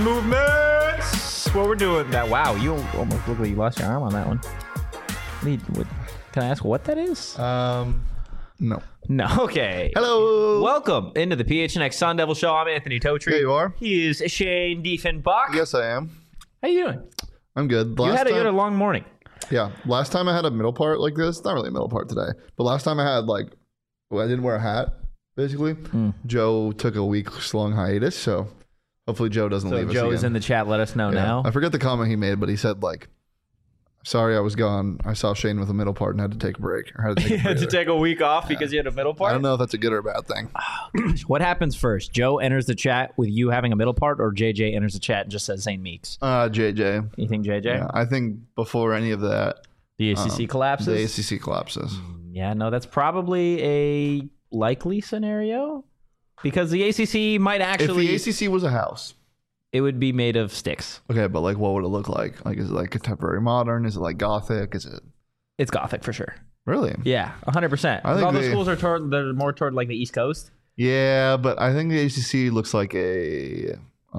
movements. What we're doing that. Wow, you almost look like you lost your arm on that one. Can I ask what that is? No. No. Okay. Hello. Welcome into the PHNX Sun Devil Show. I'm Anthony Totri. There you are. He is Shane Diefenbach. Yes, I am. How you doing? I'm good. You had a long morning. Yeah. Last time I had a middle part like this, not really a middle part today, but last time I had I didn't wear a hat, basically. Joe took a week-long hiatus, so hopefully Joe doesn't leave us Joe again. is in the chat. Let us know now. I forget the comment he made, but he said sorry I was gone. I saw Shane with a middle part and had to take a break. Or had to take You had to take a week off because you had a middle part? I don't know if that's a good or a bad thing. What happens first? Joe enters the chat with you having a middle part, or JJ enters the chat and just says St. Meeks? JJ. You think JJ? Yeah, I think before any of that, The ACC collapses? the ACC collapses. Yeah, no, that's probably a likely scenario because the ACC might actually... If the ACC was a house... It would be made of sticks. Okay, but what would it look like? Is it contemporary modern? Is it Gothic? Is it... It's Gothic for sure. Really? Yeah, 100%. I think all the schools are they're more toward the East Coast. Yeah, but I think the ACC looks like a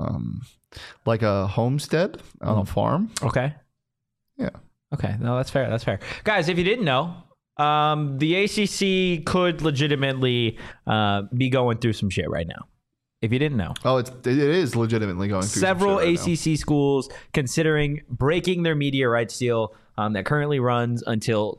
homestead on a farm. Okay. Yeah. Okay. No, that's fair. That's fair. Guys, if you didn't know, the ACC could legitimately be going through some shit right now. If you didn't know. Oh, it is legitimately going through several some shit right ACC schools considering breaking their media rights deal that currently runs until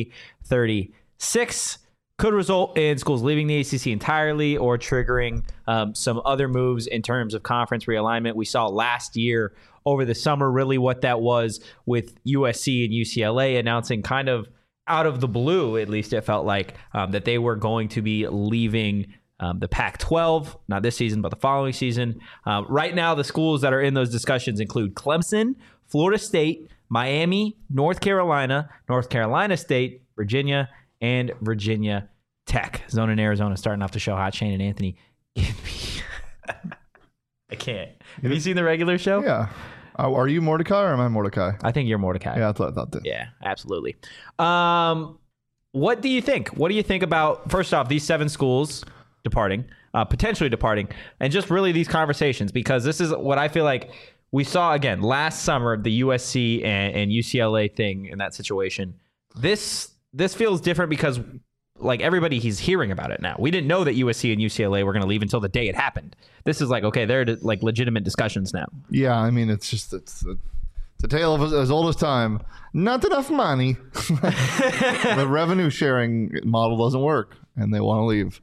2036. Could result in schools leaving the ACC entirely or triggering some other moves in terms of conference realignment. We saw last year over the summer really what that was with USC and UCLA announcing kind of out of the blue, at least it felt like, that they were going to be leaving the Pac-12, not this season, but the following season. Right now, the schools that are in those discussions include Clemson, Florida State, Miami, North Carolina State, Virginia, and Virginia Tech. Zone in Arizona starting off the show hot. Shane and Anthony. I can't. Have you seen the regular show? Yeah. Are you Mordecai or am I Mordecai? I think you're Mordecai. Yeah, I thought that. Yeah, absolutely. What do you think? What do you think about, first off, these 7 schools potentially departing, and just really these conversations? Because this is what I feel like we saw again last summer, the USC and UCLA thing in that situation. This feels different because everybody he's hearing about it now. We didn't know that USC and UCLA were going to leave until the day it happened. This is okay, they're legitimate discussions now. Yeah, I mean it's a tale of as old as time. Not enough money. The revenue sharing model doesn't work, and they want to leave.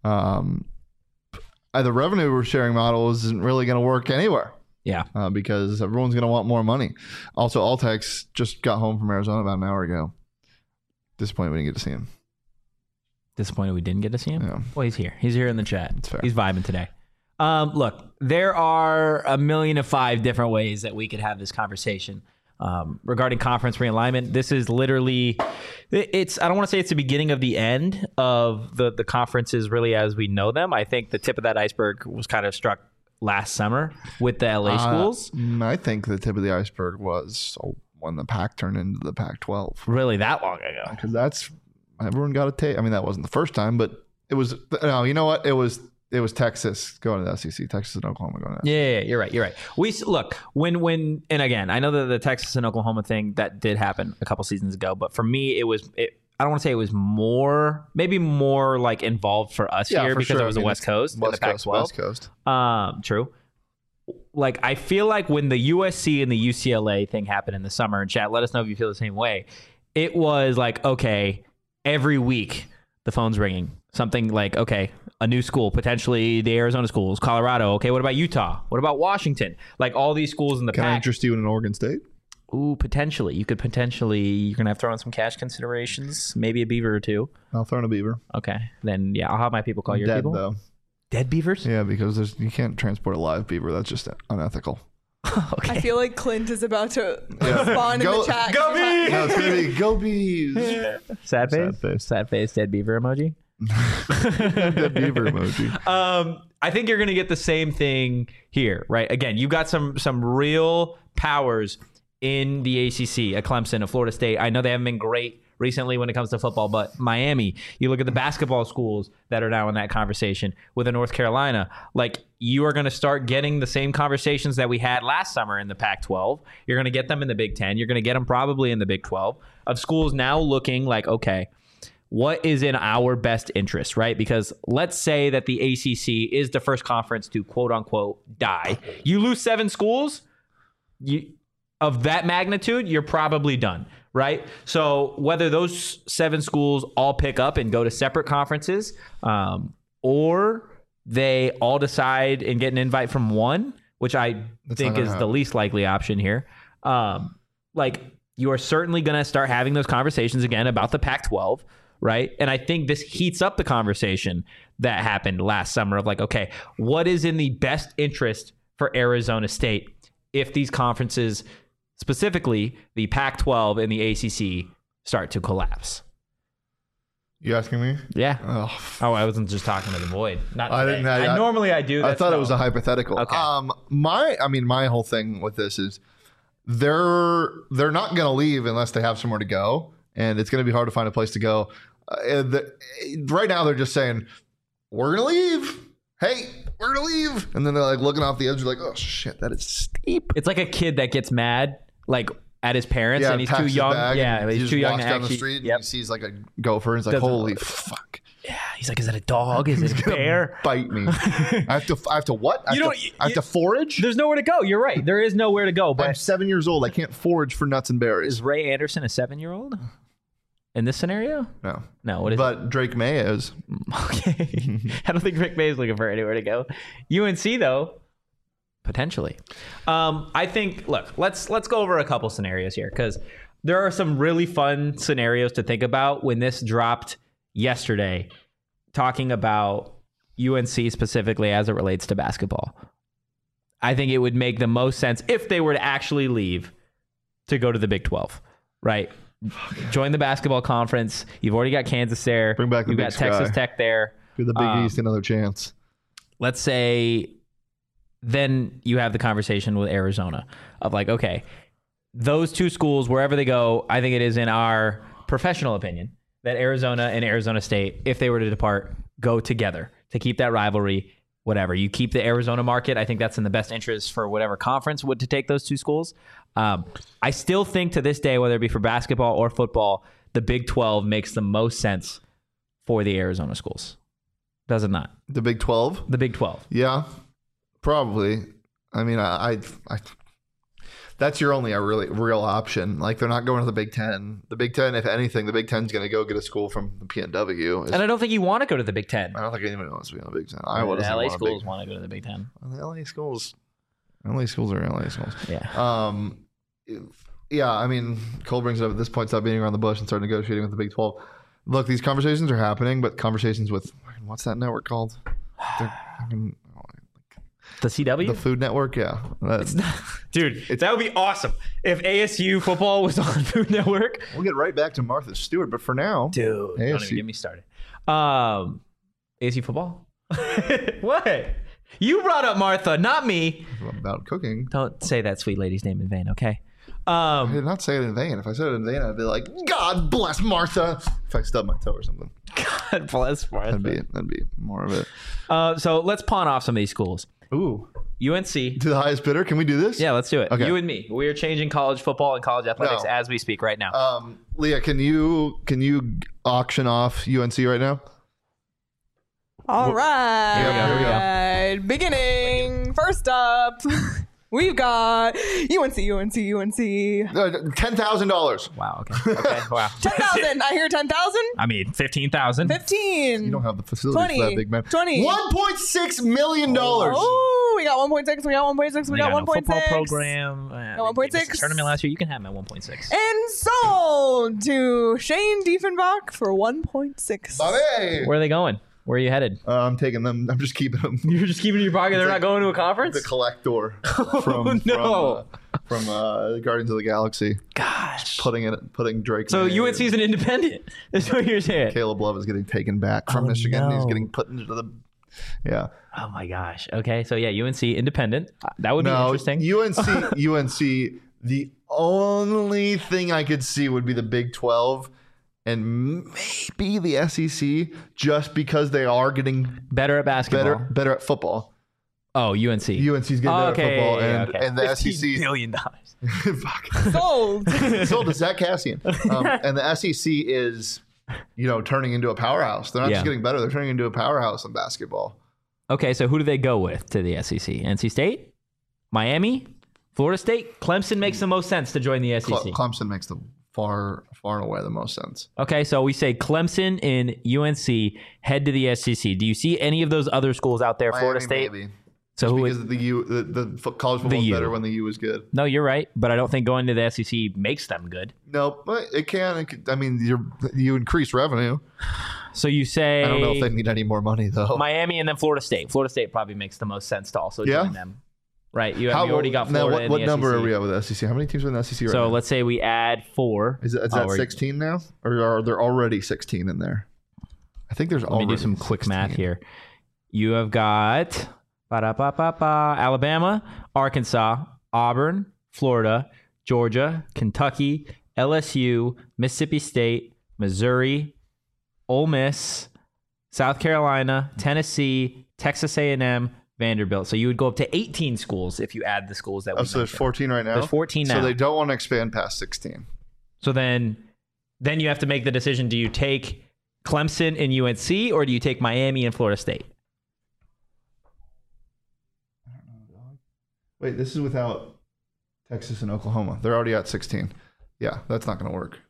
The revenue sharing model isn't really going to work anywhere. Yeah. Because everyone's going to want more money. Also, Altex just got home from Arizona about an hour ago. Disappointed we didn't get to see him. Disappointed we didn't get to see him? Yeah. Well, he's here. He's here in the chat. It's fair. He's vibing today. Look, there are 1,000,005 different ways that we could have this conversation regarding conference realignment. This is literally, I don't want to say it's the beginning of the end of the conferences really as we know them. I think the tip of that iceberg was kind of struck last summer with the LA schools. I think the tip of the iceberg was when the Pac turned into the Pac-12. Really that long ago? Because everyone got a taste. I mean, that wasn't the first time, but it was, no, you know what? It was Texas going to the SEC, Texas and Oklahoma going to the SEC. Yeah, you're right. Look, when and again, I know that the Texas and Oklahoma thing that did happen a couple seasons ago, but for me, I don't want to say it was maybe more involved for us here because it was the West Coast and the Pac-12. West Coast. True. I feel like when the USC and the UCLA thing happened in the summer, and chat, let us know if you feel the same way. It was okay, every week the phone's ringing. Something okay, a new school, potentially the Arizona schools, Colorado. Okay, what about Utah? What about Washington? All these schools in the Can Pac. I interest you in an Oregon State? Ooh, potentially. You're going to have to throw in some cash considerations, maybe a beaver or two. I'll throw in a beaver. Okay, then yeah, I'll have my people call your Dead, people. Though. Dead beavers? Yeah, because you can't transport a live beaver. That's just unethical. Okay. I feel like Clint is about to respond in the chat. Go bees! No, it's gonna be go bees. Sad face, dead beaver emoji. Dead beaver emoji. I think you're going to get the same thing here, right? Again, you've got some real powers in the ACC, a Clemson, a Florida State. I know they haven't been great recently when it comes to football, but Miami, you look at the basketball schools that are now in that conversation with a North Carolina, like you are going to start getting the same conversations that we had last summer in the Pac-12. You're going to get them in the Big Ten. You're going to get them probably in the Big 12 of schools now looking like, okay, what is in our best interest, right? Because let's say that the ACC is the first conference to quote unquote die. You lose 7 schools of that magnitude, you're probably done, right? So whether those 7 schools all pick up and go to separate conferences, or they all decide and get an invite from one, which I think is the least likely option here. Like you are certainly going to start having those conversations again about the Pac-12, right? And I think this heats up the conversation that happened last summer of like, okay, what is in the best interest for Arizona State if these conferences, specifically the Pac-12 and the ACC, start to collapse? You asking me? Yeah. Oh, I wasn't just talking to the void. Not I today. didn't. Normally I do. I thought it was a hypothetical. Okay. My whole thing with this is they're not going to leave unless they have somewhere to go, and it's going to be hard to find a place to go. Right now, they're just saying, "We're going to leave. Hey, we're going to leave," and then they're like looking off the edge, like, "Oh shit, that is steep." It's like a kid that gets mad, like at his parents, and he's too young. Yeah, he's too young to down actually. the street. And he sees like a gopher, and he's like, "Holy fuck!" Yeah, he's like, "Is it a dog? Is it a bear? Bite me? I have to what? I have to forage. There's nowhere to go. You're right. There is nowhere to go. But I'm 7 years old. I can't forage for nuts and berries. Is Ray Anderson a 7-year-old in this scenario? No. What is? But Drake May is. Okay. I don't think Drake May is looking for anywhere to go. UNC though, potentially. I think. Look, let's go over a couple scenarios here because there are some really fun scenarios to think about when this dropped yesterday, talking about UNC specifically as it relates to basketball. I think it would make the most sense if they were to actually leave to go to the Big 12, right? Join the basketball conference. You've already got Kansas there. Bring back the You've Big got Sky. Texas Tech there. Give the Big East another chance. Let's say then you have the conversation with Arizona of like, okay, those 2 schools, wherever they go, I think it is in our professional opinion that Arizona and Arizona State, if they were to depart, go together to keep that rivalry, whatever. You keep the Arizona market. I think that's in the best interest for whatever conference would to take those 2 schools. I still think to this day, whether it be for basketball or football, the Big 12 makes the most sense for the Arizona schools. Does it not? The Big 12? The Big 12. Yeah, probably. I mean, I that's your only really real option. Like, they're not going to the Big Ten. The Big Ten, if anything, the Big Ten's going to go get a school from the PNW. And I don't think you want to go to the Big Ten. I don't think anyone wants to be on the Big Ten. The LA schools want to go to the Big Ten. The LA schools are LA schools. Yeah. Yeah, I mean, Cole brings it up at this point, stop beating around the bush and start negotiating with the Big 12. Look, these conversations are happening, but conversations with, what's that network called? The CW? The Food Network, yeah. Dude, that would be awesome if ASU football was on Food Network. We'll get right back to Martha Stewart, but for now, dude, ASU. Don't even get me started. ASU football? What? You brought up Martha, not me. About cooking. Don't say that sweet lady's name in vain, okay? I did not say it in vain. If I said it in vain, I'd be like, God bless Martha. If I stubbed my toe or something. God bless Martha. That'd be more of it. So let's pawn off some of these schools. Ooh. UNC. To the highest bidder? Can we do this? Yeah, let's do it. Okay. You and me. We are changing college football and college athletics as we speak right now. Leah, can you auction off UNC right now? All right. Here we go. Beginning. First up, we've got UNC. $10,000. Wow. Okay. Wow. 10,000. I hear 10,000. I mean, 15,000. 15. You don't have the facilities for that, big man. 20. $1.6 million. Oh, we got 1.6. We got 1.6. We got no 1.6. football program. Got 1.6. Tournament last year. You can have them at 1.6. And sold to Shane Diefenbach for 1.6. Bobby. Where are they going? Where are you headed? I'm taking them. I'm just keeping them. You're just keeping in your pocket. They're not going to a conference. The collector from Guardians of the Galaxy. Gosh. Putting Drake. So May UNC's an independent. That's what you're saying. Caleb Love is getting taken back from Michigan. No. He's getting put into the. Yeah. Oh my gosh. Okay. So yeah, UNC independent. That would be interesting. UNC. The only thing I could see would be the Big 12 and maybe the SEC, just because they are getting Better at basketball. better at football. Oh, UNC. UNC's getting better at football, and the $15 SEC billion. fuck, Sold. sold to Zach Cassian, and the SEC is, turning into a powerhouse. They're not Yeah. just getting better; they're turning into a powerhouse in basketball. Okay, so who do they go with to the SEC? NC State, Miami, Florida State. Clemson makes the most sense to join the SEC. Clemson makes the far and away the most sense. Okay, so we say Clemson and UNC head to the SEC. Do you see any of those other schools out there? Florida State. Maybe. So who Because would, the college football is U. better when the U is good. no, you're right, but I don't think going to the SEC makes them good. No, but it can. I mean, you increase revenue. So you say I don't know if they need any more money though. Miami and then Florida State. Florida State probably makes the most sense to also join them. Right, you already got Florida. Now, what in the number SEC. are we at with the SEC? How many teams are in the SEC right So now? let's say we add 4. Is that 16 now, or are there already 16 in there? I think there's Let already. me do some quick 16. math here. You have got Alabama, Arkansas, Auburn, Florida, Georgia, Kentucky, LSU, Mississippi State, Missouri, Ole Miss, South Carolina, Tennessee, Texas A&M, Vanderbilt. So you would go up to 18 schools if you add the schools that we So there's mentioned. 14 right now. There's 14 now. So they don't want to expand past 16. So then you have to make the decision. Do you take Clemson and UNC or do you take Miami and Florida State? Wait, this is without Texas and Oklahoma. They're already at 16. Yeah, that's not going to work.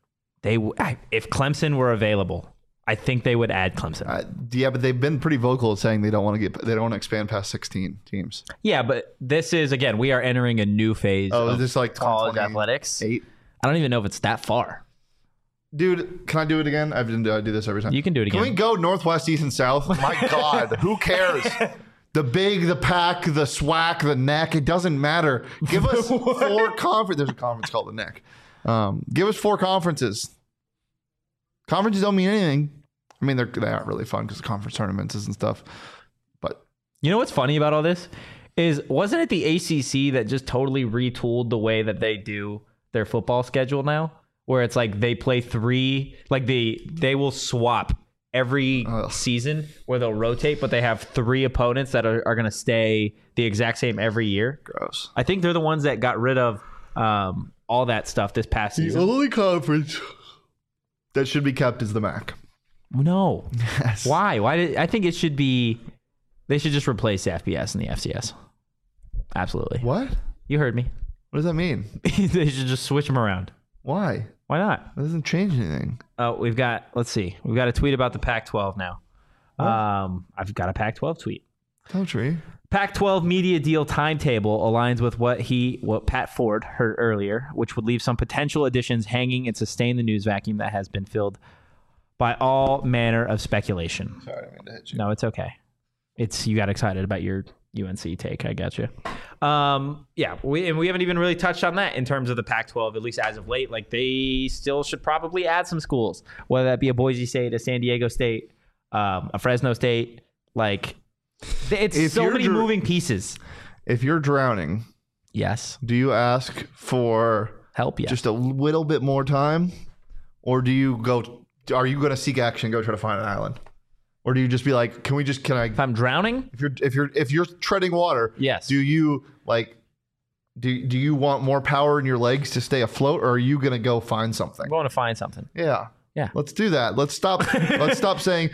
If Clemson were available, I think they would add Clemson. Yeah, but they've been pretty vocal saying they don't want to expand past 16 teams. Yeah, but this is, again, we are entering a new phase Oh, of is this like college 2028? athletics. I don't even know if it's that far. Dude, can I do it again? I do this every time. You can do it again. Can we go Northwest, East, and South? My God, who cares? The big, the pack, the SWAC, the neck, it doesn't matter. Give us 4 conferences. There's a conference called the neck. Give us 4 conferences. Conferences don't mean anything. I mean, they aren't really fun because of conference tournaments and stuff. But You know what's funny about all this is, wasn't it the ACC that just totally retooled the way that they do their football schedule now? Where it's like they play 3, like they will swap every season where they'll rotate, but they have 3 opponents that are going to stay the exact same every year. gross. I think they're the ones that got rid of all that stuff this past The season. only conference that should be kept is the MAC. No. Yes. Why? I think it should be, they should just replace the FBS and the FCS. Absolutely. What? You heard me. What does that mean? They should just switch them around. Why? Why not? That doesn't change anything. Let's see. We've got a tweet about the Pac-12 now. I've got a Pac-12 tweet. Country. Pac-12 media deal timetable aligns with what Pat Ford heard earlier, which would leave some potential additions hanging and sustain the news vacuum that has been filled by all manner of speculation. Sorry, I didn't mean to hit you. No, it's okay. You got excited about your UNC take. I got you. Yeah, we haven't even really touched on that in terms of the Pac-12, at least as of late. Like, they still should probably add some schools, whether that be a Boise State, a San Diego State, a Fresno State. Like, it's so many moving pieces. If you're drowning, Yes. do you ask for Help, yes. just a little bit more time, or are you going to seek action and go try to find an island? Or do you just be like, If I'm drowning, if you're treading water, yes. do you want more power in your legs to stay afloat, or are you going to go find something? I'm going to find something. Yeah. Yeah. Let's do that. Let's stop saying,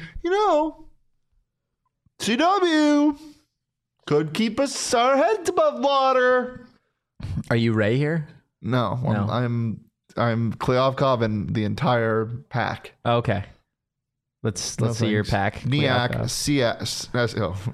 CW could keep our heads above water. Are you Ray here? No. No. I'm Kleovkov and the entire pack. Okay. Let's see your pack. NEAC, CS. I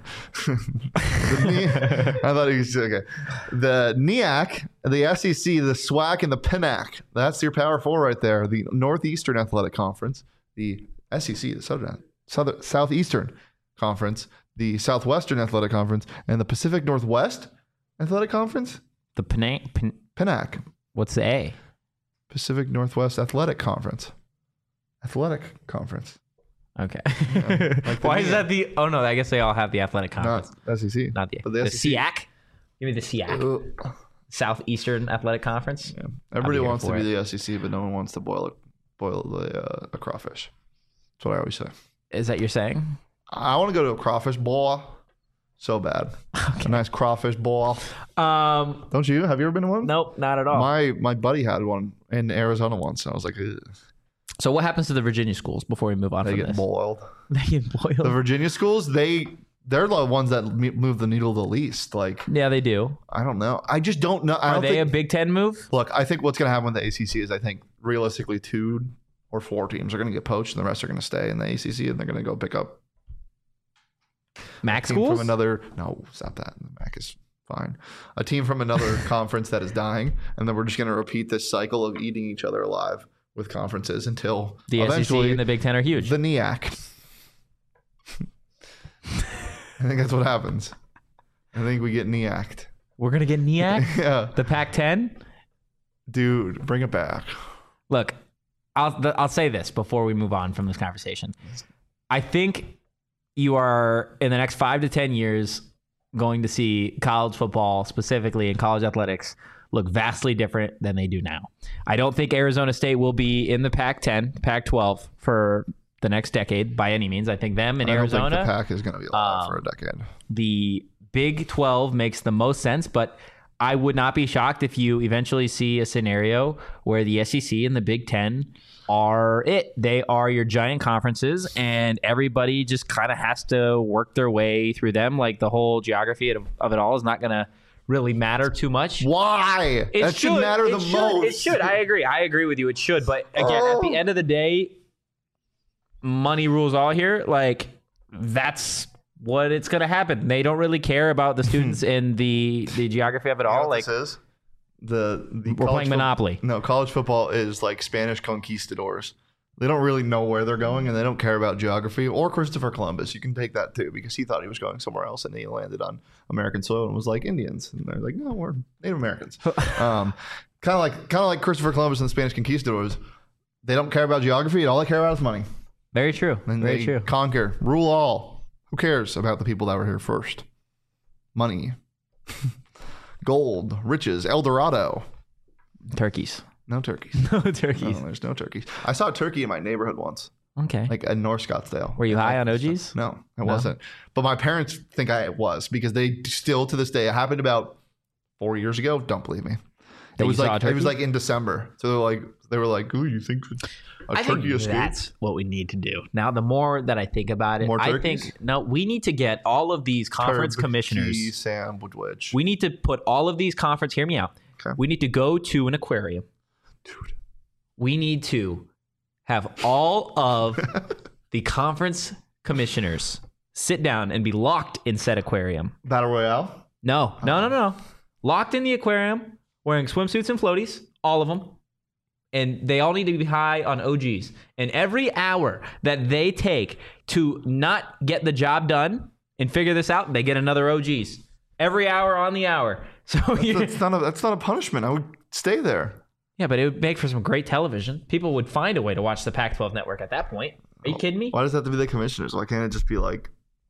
thought he was okay. The NEAC, the SEC, the SWAC, and the PNAC. That's your Power 4 right there. The Northeastern Athletic Conference, the SEC, the Southeastern Conference, the Southwestern Athletic Conference, and the Pacific Northwest Athletic Conference. The PNAC. What's the A? Pacific Northwest Athletic Conference. Athletic Conference. Okay. like Why the is that the? Oh no, I guess they all have the athletic conference. Not SEC. Not the But the SEC. SEAC. Give me the SEAC. Southeastern Athletic Conference. Yeah. Everybody here wants to for be it. the SEC, but no one wants to boil boil a crawfish. That's what I always say. Is that you're saying? I want to go to a crawfish boil so bad. A nice crawfish boil. Don't you? Have you ever been to one? Nope, not at all. My buddy had one in Arizona once, and I was like, ugh. So what happens to the Virginia schools before we move on They from get this? boiled. They get boiled. The Virginia schools, they're the ones that move the needle the least. Like, Yeah, they do. I don't know. I just don't know. I Are don't they think, a Big Ten move? Look, I think what's going to happen with the ACC is I think realistically 2 or 4 teams are going to get poached, and the rest are going to stay in the ACC, and they're going to go pick up MAC a team schools? from another. No, stop that. The MAC is fine. A team from another conference that is dying, and then we're just going to repeat this cycle of eating each other alive with conferences until The SEC eventually and the Big Ten are huge. the NEAC. I think that's what happens. I think we get NEAC'd. We're going to get NEAC? Yeah, The Pac-10? dude, bring it back. Look, I'll say this before we move on from this conversation. I think you are, in the next 5 to 10 years, going to see college football, specifically in college athletics, look vastly different than they do now. I don't think Arizona State will be in the Pac-10, Pac-12 for the next decade by any means. I think them in I don't Arizona, think the Pac is going to be alive for a decade. the Big 12 makes the most sense, but I would not be shocked if you eventually see a scenario where the SEC and the Big 10 are it. They are your giant conferences, and everybody just kind of has to work their way through them. Like, the whole geography of it all is not going to really matter too much. Why? That should matter the most. It should. I agree with you. It should. But again, at the end of the day, money rules all here. Like, that's what it's going to happen. They don't really care about the students and the geography of it You know all. what Like, this is? The we're playing Monopoly. No, college football is like Spanish conquistadors. They don't really know where they're going, and they don't care about geography or Christopher Columbus. You can take that too, because he thought he was going somewhere else, and he landed on American soil and was like Indians, and they're like, no, we're Native Americans. Kind of like Christopher Columbus and the Spanish conquistadors. They don't care about geography, and all they care about is money. Very true. And Very they true. conquer, rule all. Who cares about the people that were here first? Money, gold, riches, El Dorado. Turkeys. No turkeys. No turkeys. No, there's no turkeys. I saw a turkey in my neighborhood once, Okay. like in North Scottsdale. Were you high on OGs? No, I wasn't. But my parents think I was, because they still to this day. It happened about 4 years ago. Don't believe me. That you saw a turkey? It was like in December. So they were like, "Ooh, you think a turkey escaped?" That's what we need to do. Now, the more that I think about it, More I turkeys? think, no, we need to get all of these conference commissioners. Sandwich. We need to put all of these conference, hear me out. Okay. We need to go to an aquarium. Dude. We need to have all of the conference commissioners sit down and be locked in said aquarium. Battle Royale. No. Locked in the aquarium, wearing swimsuits and floaties, all of them. And they all need to be high on OGs. And every hour that they take to not get the job done and figure this out, they get another OGs. Every hour on the hour. So That's not a punishment. I would stay there. yeah, but it would make for some great television. People would find a way to watch the Pac-12 network at that point. Are you kidding me? Why does that have to be the commissioners? Why can't it just be like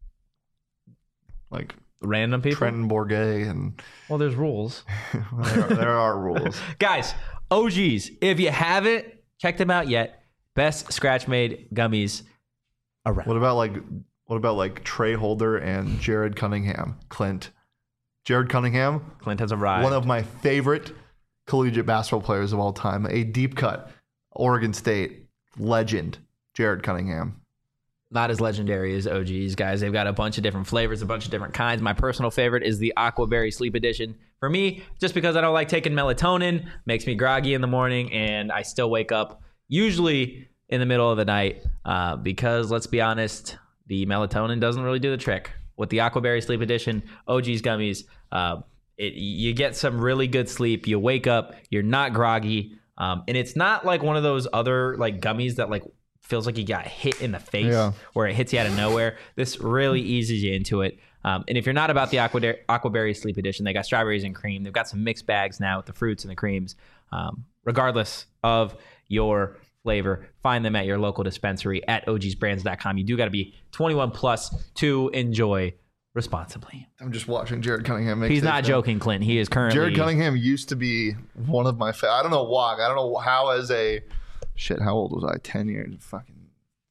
Random people? Trenton Bourget and Well, there's rules. there are rules. Guys, OGs, if you haven't checked them out yet, best scratch-made gummies around. What about like Trey Holder and Jared Cunningham? Jared Cunningham, Clint has arrived. one of my favorite collegiate basketball players of all time, a deep cut Oregon State legend, Jared Cunningham. Not as legendary as OGs, guys. They've got a bunch of different flavors, a bunch of different kinds. My personal favorite is the Aquaberry Sleep Edition. For me, just because I don't like taking melatonin, makes me groggy in the morning, and I still wake up usually in the middle of the night because, let's be honest, the melatonin doesn't really do the trick. With the Aquaberry Sleep Edition, OG's gummies, you get some really good sleep. You wake up, you're not groggy, and it's not like one of those other like gummies that like feels like you got hit in the face where it hits you out of nowhere. This really eases you into it. And if you're not about the Aquaberry Sleep Edition, they got strawberries and cream. They've got some mixed bags now with the fruits and the creams. Regardless of your flavor, find them at your local dispensary at ogsbrands.com. You do got to be 21 plus to enjoy responsibly. I'm just watching Jared Cunningham make He's not joking, Clint. He is currently... Jared Cunningham used to be one of my I don't know why. I don't know how as a shit, how old was I? 10 years, fucking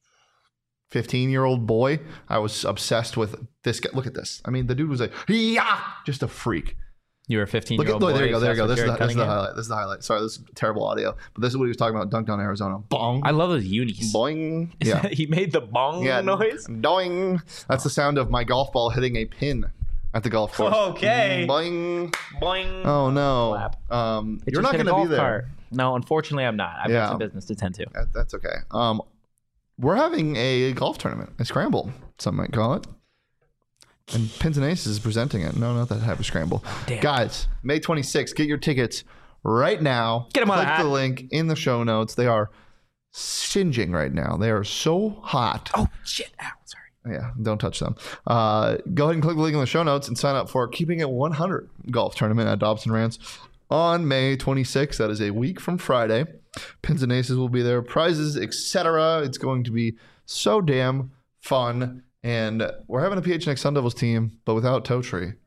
15-year-old boy. I was obsessed with this guy. Look at this. I mean, the dude was like, yeah, just a freak. You were a 15-year-old boy. There you go. There you go. That's This what is the Jared Cunningham? highlight. This is the highlight. Sorry, this is terrible audio, but this is what he was talking about. Dunked on Arizona. Bong. I love those unis. Boing. Yeah. He made the bong noise. Doing. That's the sound of my golf ball hitting a pin at the golf course. Okay. Boing. Boing. Oh no. Clap. It You're just not hit a going to be golf there. cart. No, unfortunately, I'm not. I've got some business to tend to. That's okay. We're having a golf tournament, a scramble, some might call it. And Pins and Aces is presenting it. No, not that type of scramble. Damn. Guys, May 26th, get your tickets right now. Get 'em on Click the hat. the link in the show notes. They are singeing right now. They are so hot. Oh, shit. Ow, sorry. Yeah, don't touch them. Go ahead and click the link in the show notes and sign up for Keeping It 100 golf tournament at Dobson Rance on May 26th. That is a week from Friday. Pins and Aces will be there, prizes, etc. It's going to be so damn fun. And we're having a PHNX Sun Devils team, but without Totri.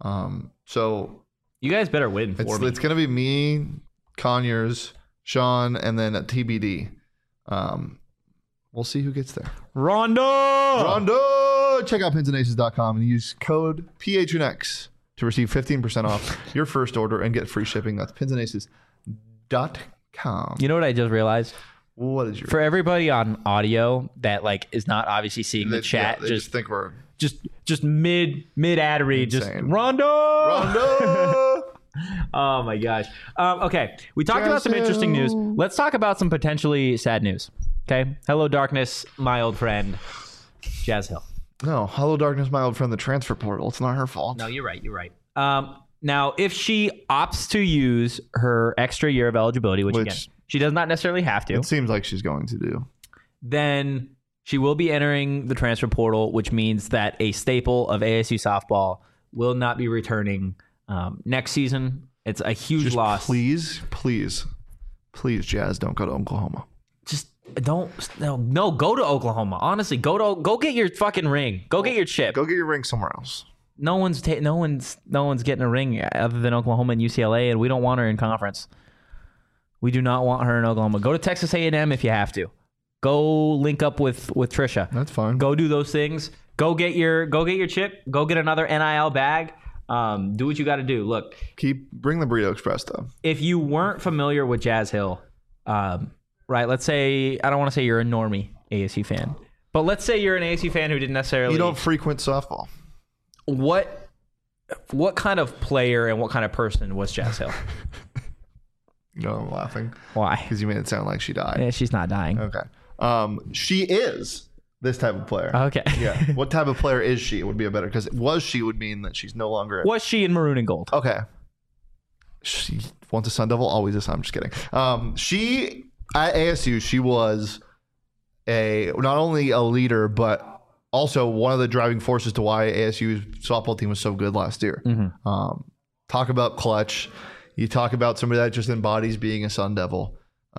So You guys better win for me. it's going to be me, Conyers, Sean, and then at TBD. We'll see who gets there. Rondo! Rondo! Check out pinsandaces.com and use code PHNX to receive 15% off your first order and get free shipping. That's pinsandaces.com. You know what I just realized? What is your... For everybody on audio that like is not obviously seeing the chat, they just think we're... just mid ad read, just Insane. Rondo! Rondo! Oh my gosh. Okay, we talked about some interesting news. Let's talk about some potentially sad news. Okay, hello darkness, my old friend, Jazz Hill. No, Hello Darkness, my old friend, the transfer portal. It's not her fault. No, you're right. You're right. Now, if she opts to use her extra year of eligibility, which again she does not necessarily have to, It seems like she's going to do. then she will be entering the transfer portal, which means that a staple of ASU softball will not be returning next season. It's a huge Just loss. please, Jazz, don't go to Oklahoma. Just don't. No, go to Oklahoma. Honestly, go get your fucking ring. Go get your chip. Go get your ring somewhere else. No one's getting a ring other than Oklahoma and UCLA, and we don't want her in conference. We do not want her in Oklahoma. Go to Texas A&M if you have to. Go link up with Trisha. That's fine. Go do those things. Go get your chip. Go get another NIL bag. Do what you got to do. Look, Bring the Burrito Express though. if you weren't familiar with Jazz Hill, right? Let's say I don't want to say you're a normie ASU fan, but let's say you're an ASU fan who didn't necessarily. You don't frequent softball. What kind of player and what kind of person was Jazz Hill? No, I'm laughing Why? because you made it sound like she died. Yeah, she's not dying. Okay. She is this type of player. Okay. Yeah. What type of player is she? It would be a better because was she would mean that she's no longer. Was she in maroon and gold? Okay. She once a Sun Devil, always a Sun. I'm just kidding. She at ASU, she was not only a leader but also one of the driving forces to why ASU's softball team was so good last year. Mm-hmm. Talk about clutch. You talk about somebody that just embodies being a Sun Devil.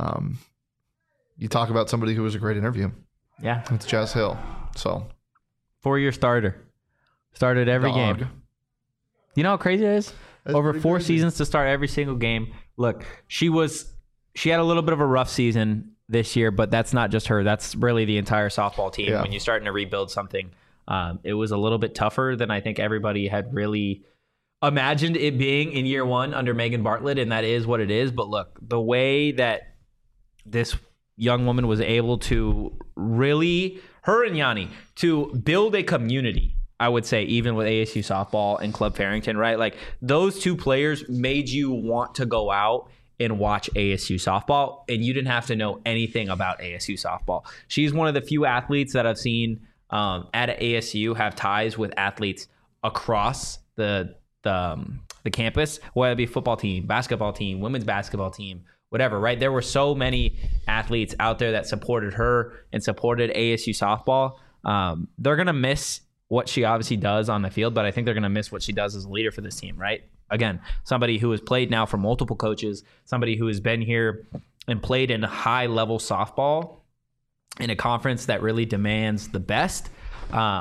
You talk about somebody who was a great interview. Yeah. It's Jazz Hill. So 4-year starter. Started every Dog. game. You know how crazy it is? That's Over pretty 4 crazy. seasons to start every single game. Look, she had a little bit of a rough season this year, but that's not just her. That's really the entire softball team. Yeah. When you're starting to rebuild something, it was a little bit tougher than I think everybody had really imagined it being in year one under Megan Bartlett, and that is what it is. But look, the way that this young woman was able to really, her and Yanni, to build a community, I would say, even with ASU softball and Club Farrington, right? Like those two players made you want to go out and watch ASU softball, and you didn't have to know anything about ASU softball. She's one of the few athletes that I've seen at ASU have ties with athletes across the campus, whether it be football team, basketball team, women's basketball team, whatever, right? There were so many athletes out there that supported her and supported ASU softball. They're going to miss what she obviously does on the field, but I think they're going to miss what she does as a leader for this team, right? Again, somebody who has played now for multiple coaches, somebody who has been here and played in high-level softball in a conference that really demands the best.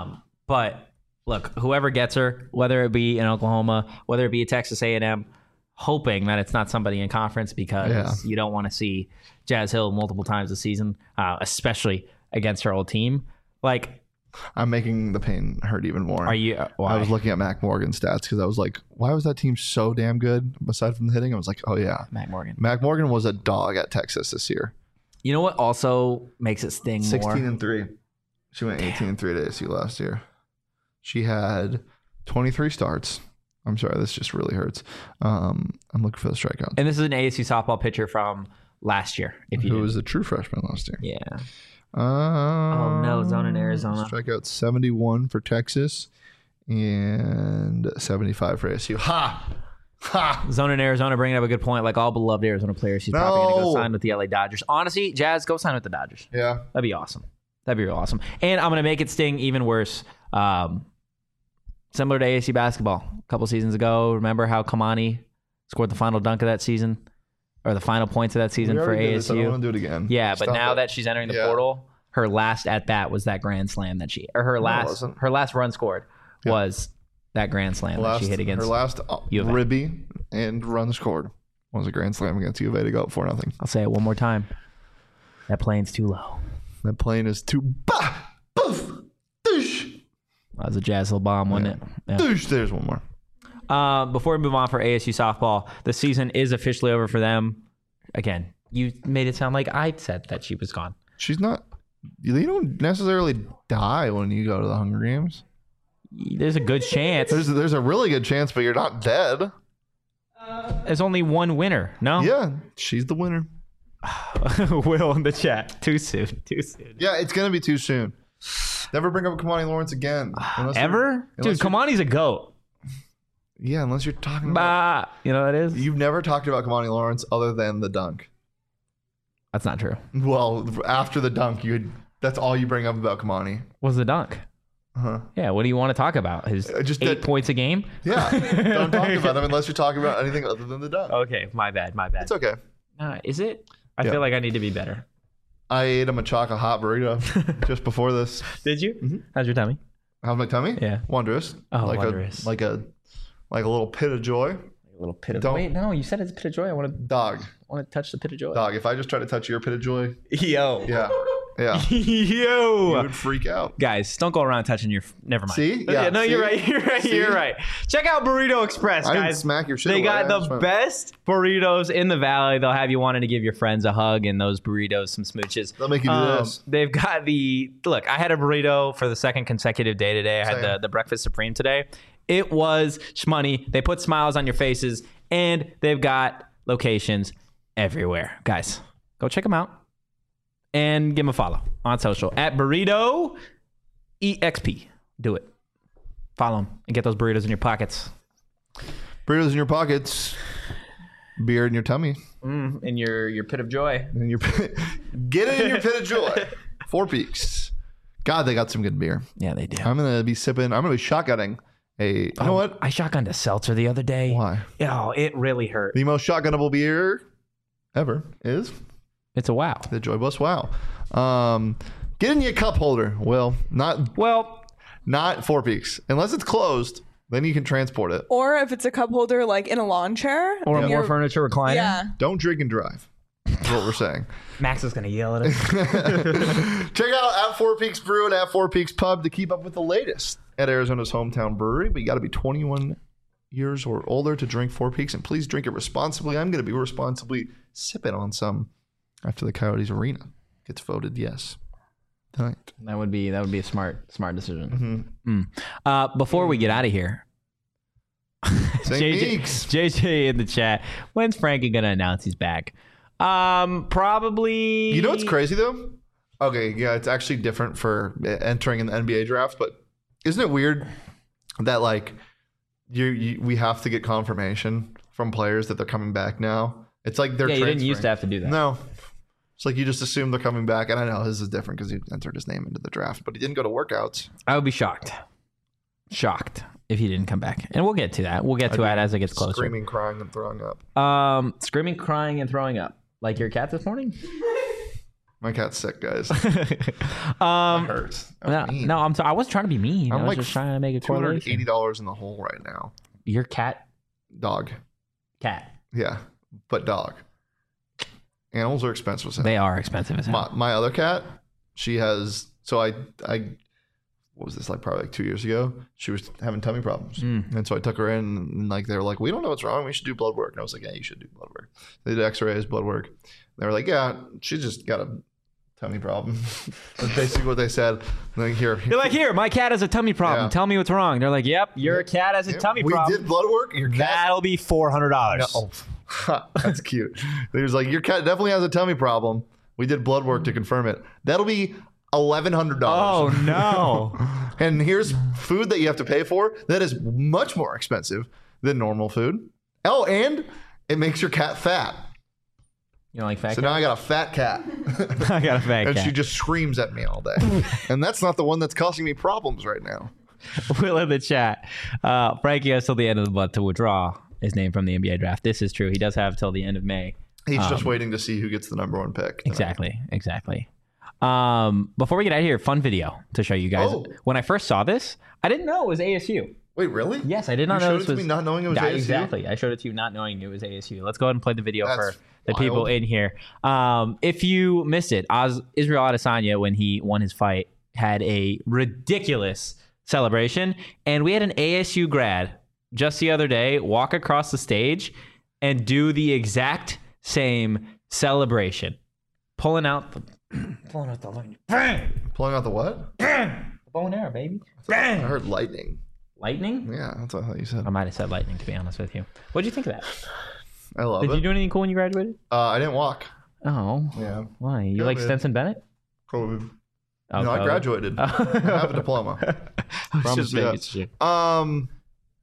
But look, whoever gets her, whether it be in Oklahoma, whether it be at Texas A&M, hoping that it's not somebody in conference because you don't want to see Jazz Hill multiple times this season, especially against her old team. Like, I'm making the pain hurt even more. Are you? Why? I was looking at Mac Morgan's stats because I was like, why was that team so damn good aside from the hitting? I was like, oh yeah. Mac Morgan. Mac Morgan was a dog at Texas this year. You know what also makes it sting 16-3. She went 18-3 at ASU last year. She had 23 starts. I'm sorry, this just really hurts. I'm looking for the strikeouts. And this is an ASU softball pitcher from last year. Who was a true freshman last year. Yeah. Oh no, zone in Arizona. Strikeout 71 for Texas and 75 for ASU. Ha! Zone in Arizona bringing up a good point. Like all beloved Arizona players, she's probably going to go sign with the LA Dodgers. Honestly, Jazz, go sign with the Dodgers. Yeah. That'd be awesome. That'd be real awesome. And I'm going to make it sting even worse. Similar to ASU basketball. A couple seasons ago, remember how Kamani scored the final dunk of that season? Or the final points of that season for ASU? I don't want to do it again. Yeah, but now that she's entering the portal, her last at bat was that grand slam that her last run scored was that grand slam that she hit against her last U of A. ribby and run scored was a grand slam against U of A to go up 4-0. I'll say it one more time. That plane's too low. That plane is too boof, doosh. That was a Jazz Hill bomb, wasn't it? Yeah. Doosh. There's one more. Before we move on for ASU softball, the season is officially over for them. Again, you made it sound like I said that she was gone. She's not. You don't necessarily die when you go to the Hunger Games. There's a good chance. There's a really good chance, but you're not dead. There's only one winner. No. Yeah, she's the winner. Will in the chat. Too soon. Yeah, it's gonna be too soon. Never bring up Kamani Lawrence again. Ever? Dude, Kamani's a GOAT. Yeah, unless you're talking about... You know what it is? You've never talked about Kamani Lawrence other than the dunk. That's not true. Well, after the dunk, that's all you bring up about Kamani. What's the dunk? Uh-huh. Yeah, what do you want to talk about? His just 8 points a game? Yeah, don't talk about him unless you're talking about anything other than the dunk. Okay, my bad. It's okay. Is it? I feel like I need to be better. I ate a machaca hot burrito just before this. Did you? Mm-hmm. How's your tummy? How's my tummy? Yeah. Wondrous. Oh, like wondrous. Like a little pit of joy. A little pit of joy. Wait, no, you said it's a pit of joy. I want to touch the pit of joy. Dog, if I just try to touch your pit of joy. Yo. Yeah. Yo. You would freak out. Guys, don't go around touching your... Never mind. See? Yeah, no, see? You're right. You're right. Check out Burrito Express, guys. I didn't smack your shit They away. got the best burritos in the valley. They'll have you wanting to give your friends a hug and those burritos some smooches. They'll make you do this. They've got Look, I had a burrito for the second consecutive day today. I had the Breakfast Supreme today. It was shmoney. They put smiles on your faces, and they've got locations everywhere. Guys, go check them out. And give them a follow on social at Burrito EXP. Do it. Follow them and get those burritos in your pockets. Burritos in your pockets. Beer in your tummy. In your pit of joy. Get it in your pit of joy. Four Peaks. God, they got some good beer. Yeah, they do. I'm going to be shotgunning you know what? I shotgunned a seltzer the other day. Why? Oh, it really hurt. The most shotgunnable beer ever is... It's a wow. The Joy Bus Wow. Get in your cup holder. Well, not Four Peaks. Unless it's closed, then you can transport it. Or if it's a cup holder like in a lawn chair. Or a more furniture recliner. Yeah. Don't drink and drive. That's what we're saying. Max is going to yell at us. Check out at Four Peaks Brew and at Four Peaks Pub to keep up with the latest at Arizona's hometown brewery. But you got to be 21 years or older to drink Four Peaks. And please drink it responsibly. I'm going to be responsibly sipping on some after the Coyotes Arena gets voted yes tonight. That would be a smart decision. Before we get out of here, JJ in the chat, when's Frankie gonna announce he's back? Probably. You know what's crazy though? Okay, yeah, it's actually different for entering in the NBA draft, but isn't it weird that like we have to get confirmation from players that they're coming back now? It's like they're you didn't used to have to do that. No. It's like you just assume they're coming back. And I know this is different because he entered his name into the draft, but he didn't go to workouts. I would be shocked if he didn't come back. And we'll get to that. We'll get to it as it gets closer. Screaming, crying, and throwing up. Screaming, crying, and throwing up. Like your cat this morning? My cat's sick, guys. That hurts. No, I'm sorry. I wasn't trying to be mean. I was like just trying to make a correlation. $280 in the hole right now. Your cat? Dog. Cat. Yeah, but dog. Animals are expensive as hell. They are expensive as hell. My other cat, she has. So I what was this, like probably like 2 years ago? She was having tummy problems, and so I took her in, and like they were like, "We don't know what's wrong. We should do blood work." And I was like, "Yeah, you should do blood work." They did X-rays, blood work. They were like, "Yeah, she just got a tummy problem." That's basically what they said. Like, You're like, "Here, my cat has a tummy problem. Yeah. Tell me what's wrong." They're like, "Yep, your cat has a tummy problem." We did blood work. Your cat. That'll be $400. Oh, that's cute. He was like, "Your cat definitely has a tummy problem. We did blood work to confirm it. That'll be $1,100. Oh no. And here's food that you have to pay for that is much more expensive than normal food. Oh, and it makes your cat fat. You don't like fat So cat? now I got a fat cat. I got a fat And cat. she just screams at me all day. And that's not the one that's causing me problems right now. Will in the chat. Frankie has till the end of the month to withdraw his name from the NBA draft. This is true. He does have till the end of May. He's just waiting to see who gets the number 1 pick. Exactly. Before we get out of here, fun video to show you guys. Oh. When I first saw this, I didn't know it was ASU. Wait, really? Yes, I did not You know showed this it to was me not knowing it was Yeah, ASU? Exactly. I showed it to you not knowing it was ASU. Let's go ahead and play the video That's for the wild. people in here. If you missed it, Israel Adesanya, when he won his fight, had a ridiculous celebration, and we had an ASU grad just the other day walk across the stage and do the exact same celebration, pulling out the lightning. Bang! Pulling out the what? Bang! The bow and arrow, baby. I Bang! heard lightning. Lightning? Yeah, that's what I thought you said. I might have said lightning, to be honest with you. What'd you think of that? I love Did it. you do anything cool when you graduated? I didn't walk. Oh. Yeah. Why? You Yeah, like man. Stetson Bennett? COVID. Oh, No, I COVID. graduated. I have a diploma. I was Promise just you making that. sure.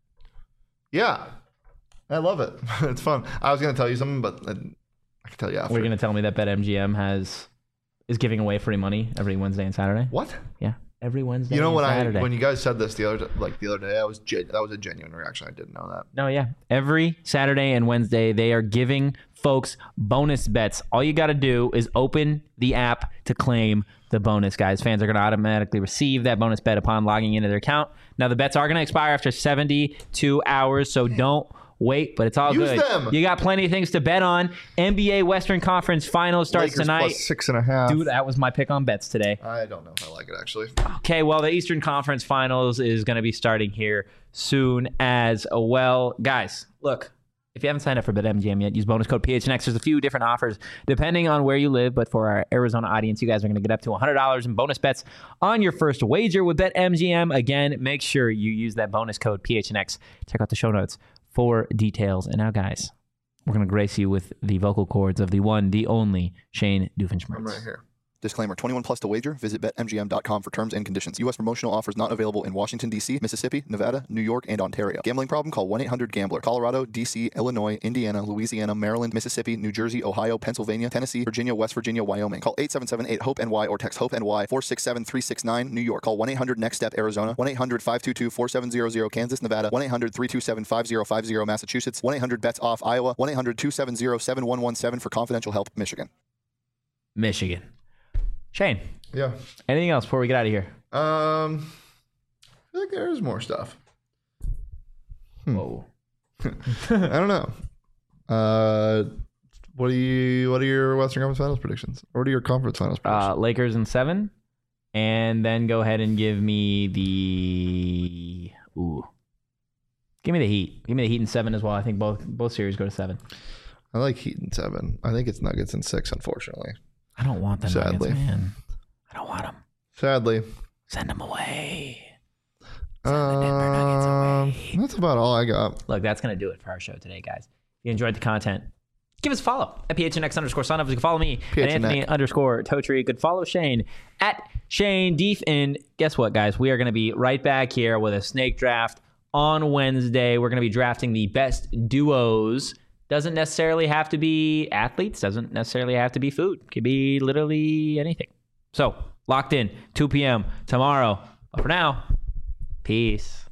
Yeah, I love it. It's fun. I was gonna tell you something, but I can tell you after. We're gonna tell me that BetMGM is giving away free money every Wednesday and Saturday. What? Yeah, every Wednesday. You know and when Saturday. when you guys said this the other day, that was a genuine reaction. I didn't know that. No, yeah. Every Saturday and Wednesday, they are giving folks bonus bets. All you got to do is open the app to claim the bonus, guys. Fans are going to automatically receive that bonus bet upon logging into their account. Now, the bets are going to expire after 72 hours, so don't wait, but it's all Use good. them. You got plenty of things to bet on. NBA Western Conference Finals starts Lakers tonight. plus 6.5. Dude, that was my pick on bets today. I don't know if I like it actually. Okay, well, the Eastern Conference Finals is going to be starting here soon as well. Guys, look, if you haven't signed up for BetMGM yet, use bonus code PHNX. There's a few different offers depending on where you live, but for our Arizona audience, you guys are going to get up to $100 in bonus bets on your first wager with BetMGM. Again, make sure you use that bonus code PHNX. Check out the show notes for details. And now, guys, we're going to grace you with the vocal cords of the one, the only Shane Doofenshmirtz. I'm right here. Disclaimer, 21 plus to wager. Visit BetMGM.com for terms and conditions. U.S. promotional offers not available in Washington, D.C., Mississippi, Nevada, New York, and Ontario. Gambling problem? Call 1-800-GAMBLER. Colorado, D.C., Illinois, Indiana, Louisiana, Maryland, Mississippi, New Jersey, Ohio, Pennsylvania, Tennessee, Virginia, West Virginia, Wyoming. Call 877-8-HOPE-NY or text HOPE-NY 467-369. New York. Call 1-800-NEXT-STEP, Arizona. 1-800-522-4700, Kansas, Nevada. 1-800-327-5050, Massachusetts. 1-800-BETS-OFF, Iowa. 1-800-270-7117 for confidential help, Michigan. Michigan. Shane, Yeah. anything else before we get out of here? I feel like there is more stuff. Whoa. I don't know. What are your Western Conference Finals predictions? Or what are your Conference Finals predictions? Lakers in 7. And then go ahead and give me the... Give me the Heat. Give me the Heat in 7 as well. I think both series go to 7. I like Heat in 7. I think it's Nuggets in 6, unfortunately. I don't want them Sadly. Nuggets, man. I don't want them. Sadly. Send them away. Send the Denver Nuggets away. That's about all I got. Look, that's going to do it for our show today, guys. If you enjoyed the content, give us a follow at PHNX_signups. You can follow me at Anthony_Totri. You could follow Shane at Shane Deef. And guess what, guys? We are going to be right back here with a snake draft on Wednesday. We're going to be drafting the best duos. Doesn't necessarily have to be athletes. Doesn't necessarily have to be food. Could be literally anything. So, locked in, 2 p.m. tomorrow. But for now, peace.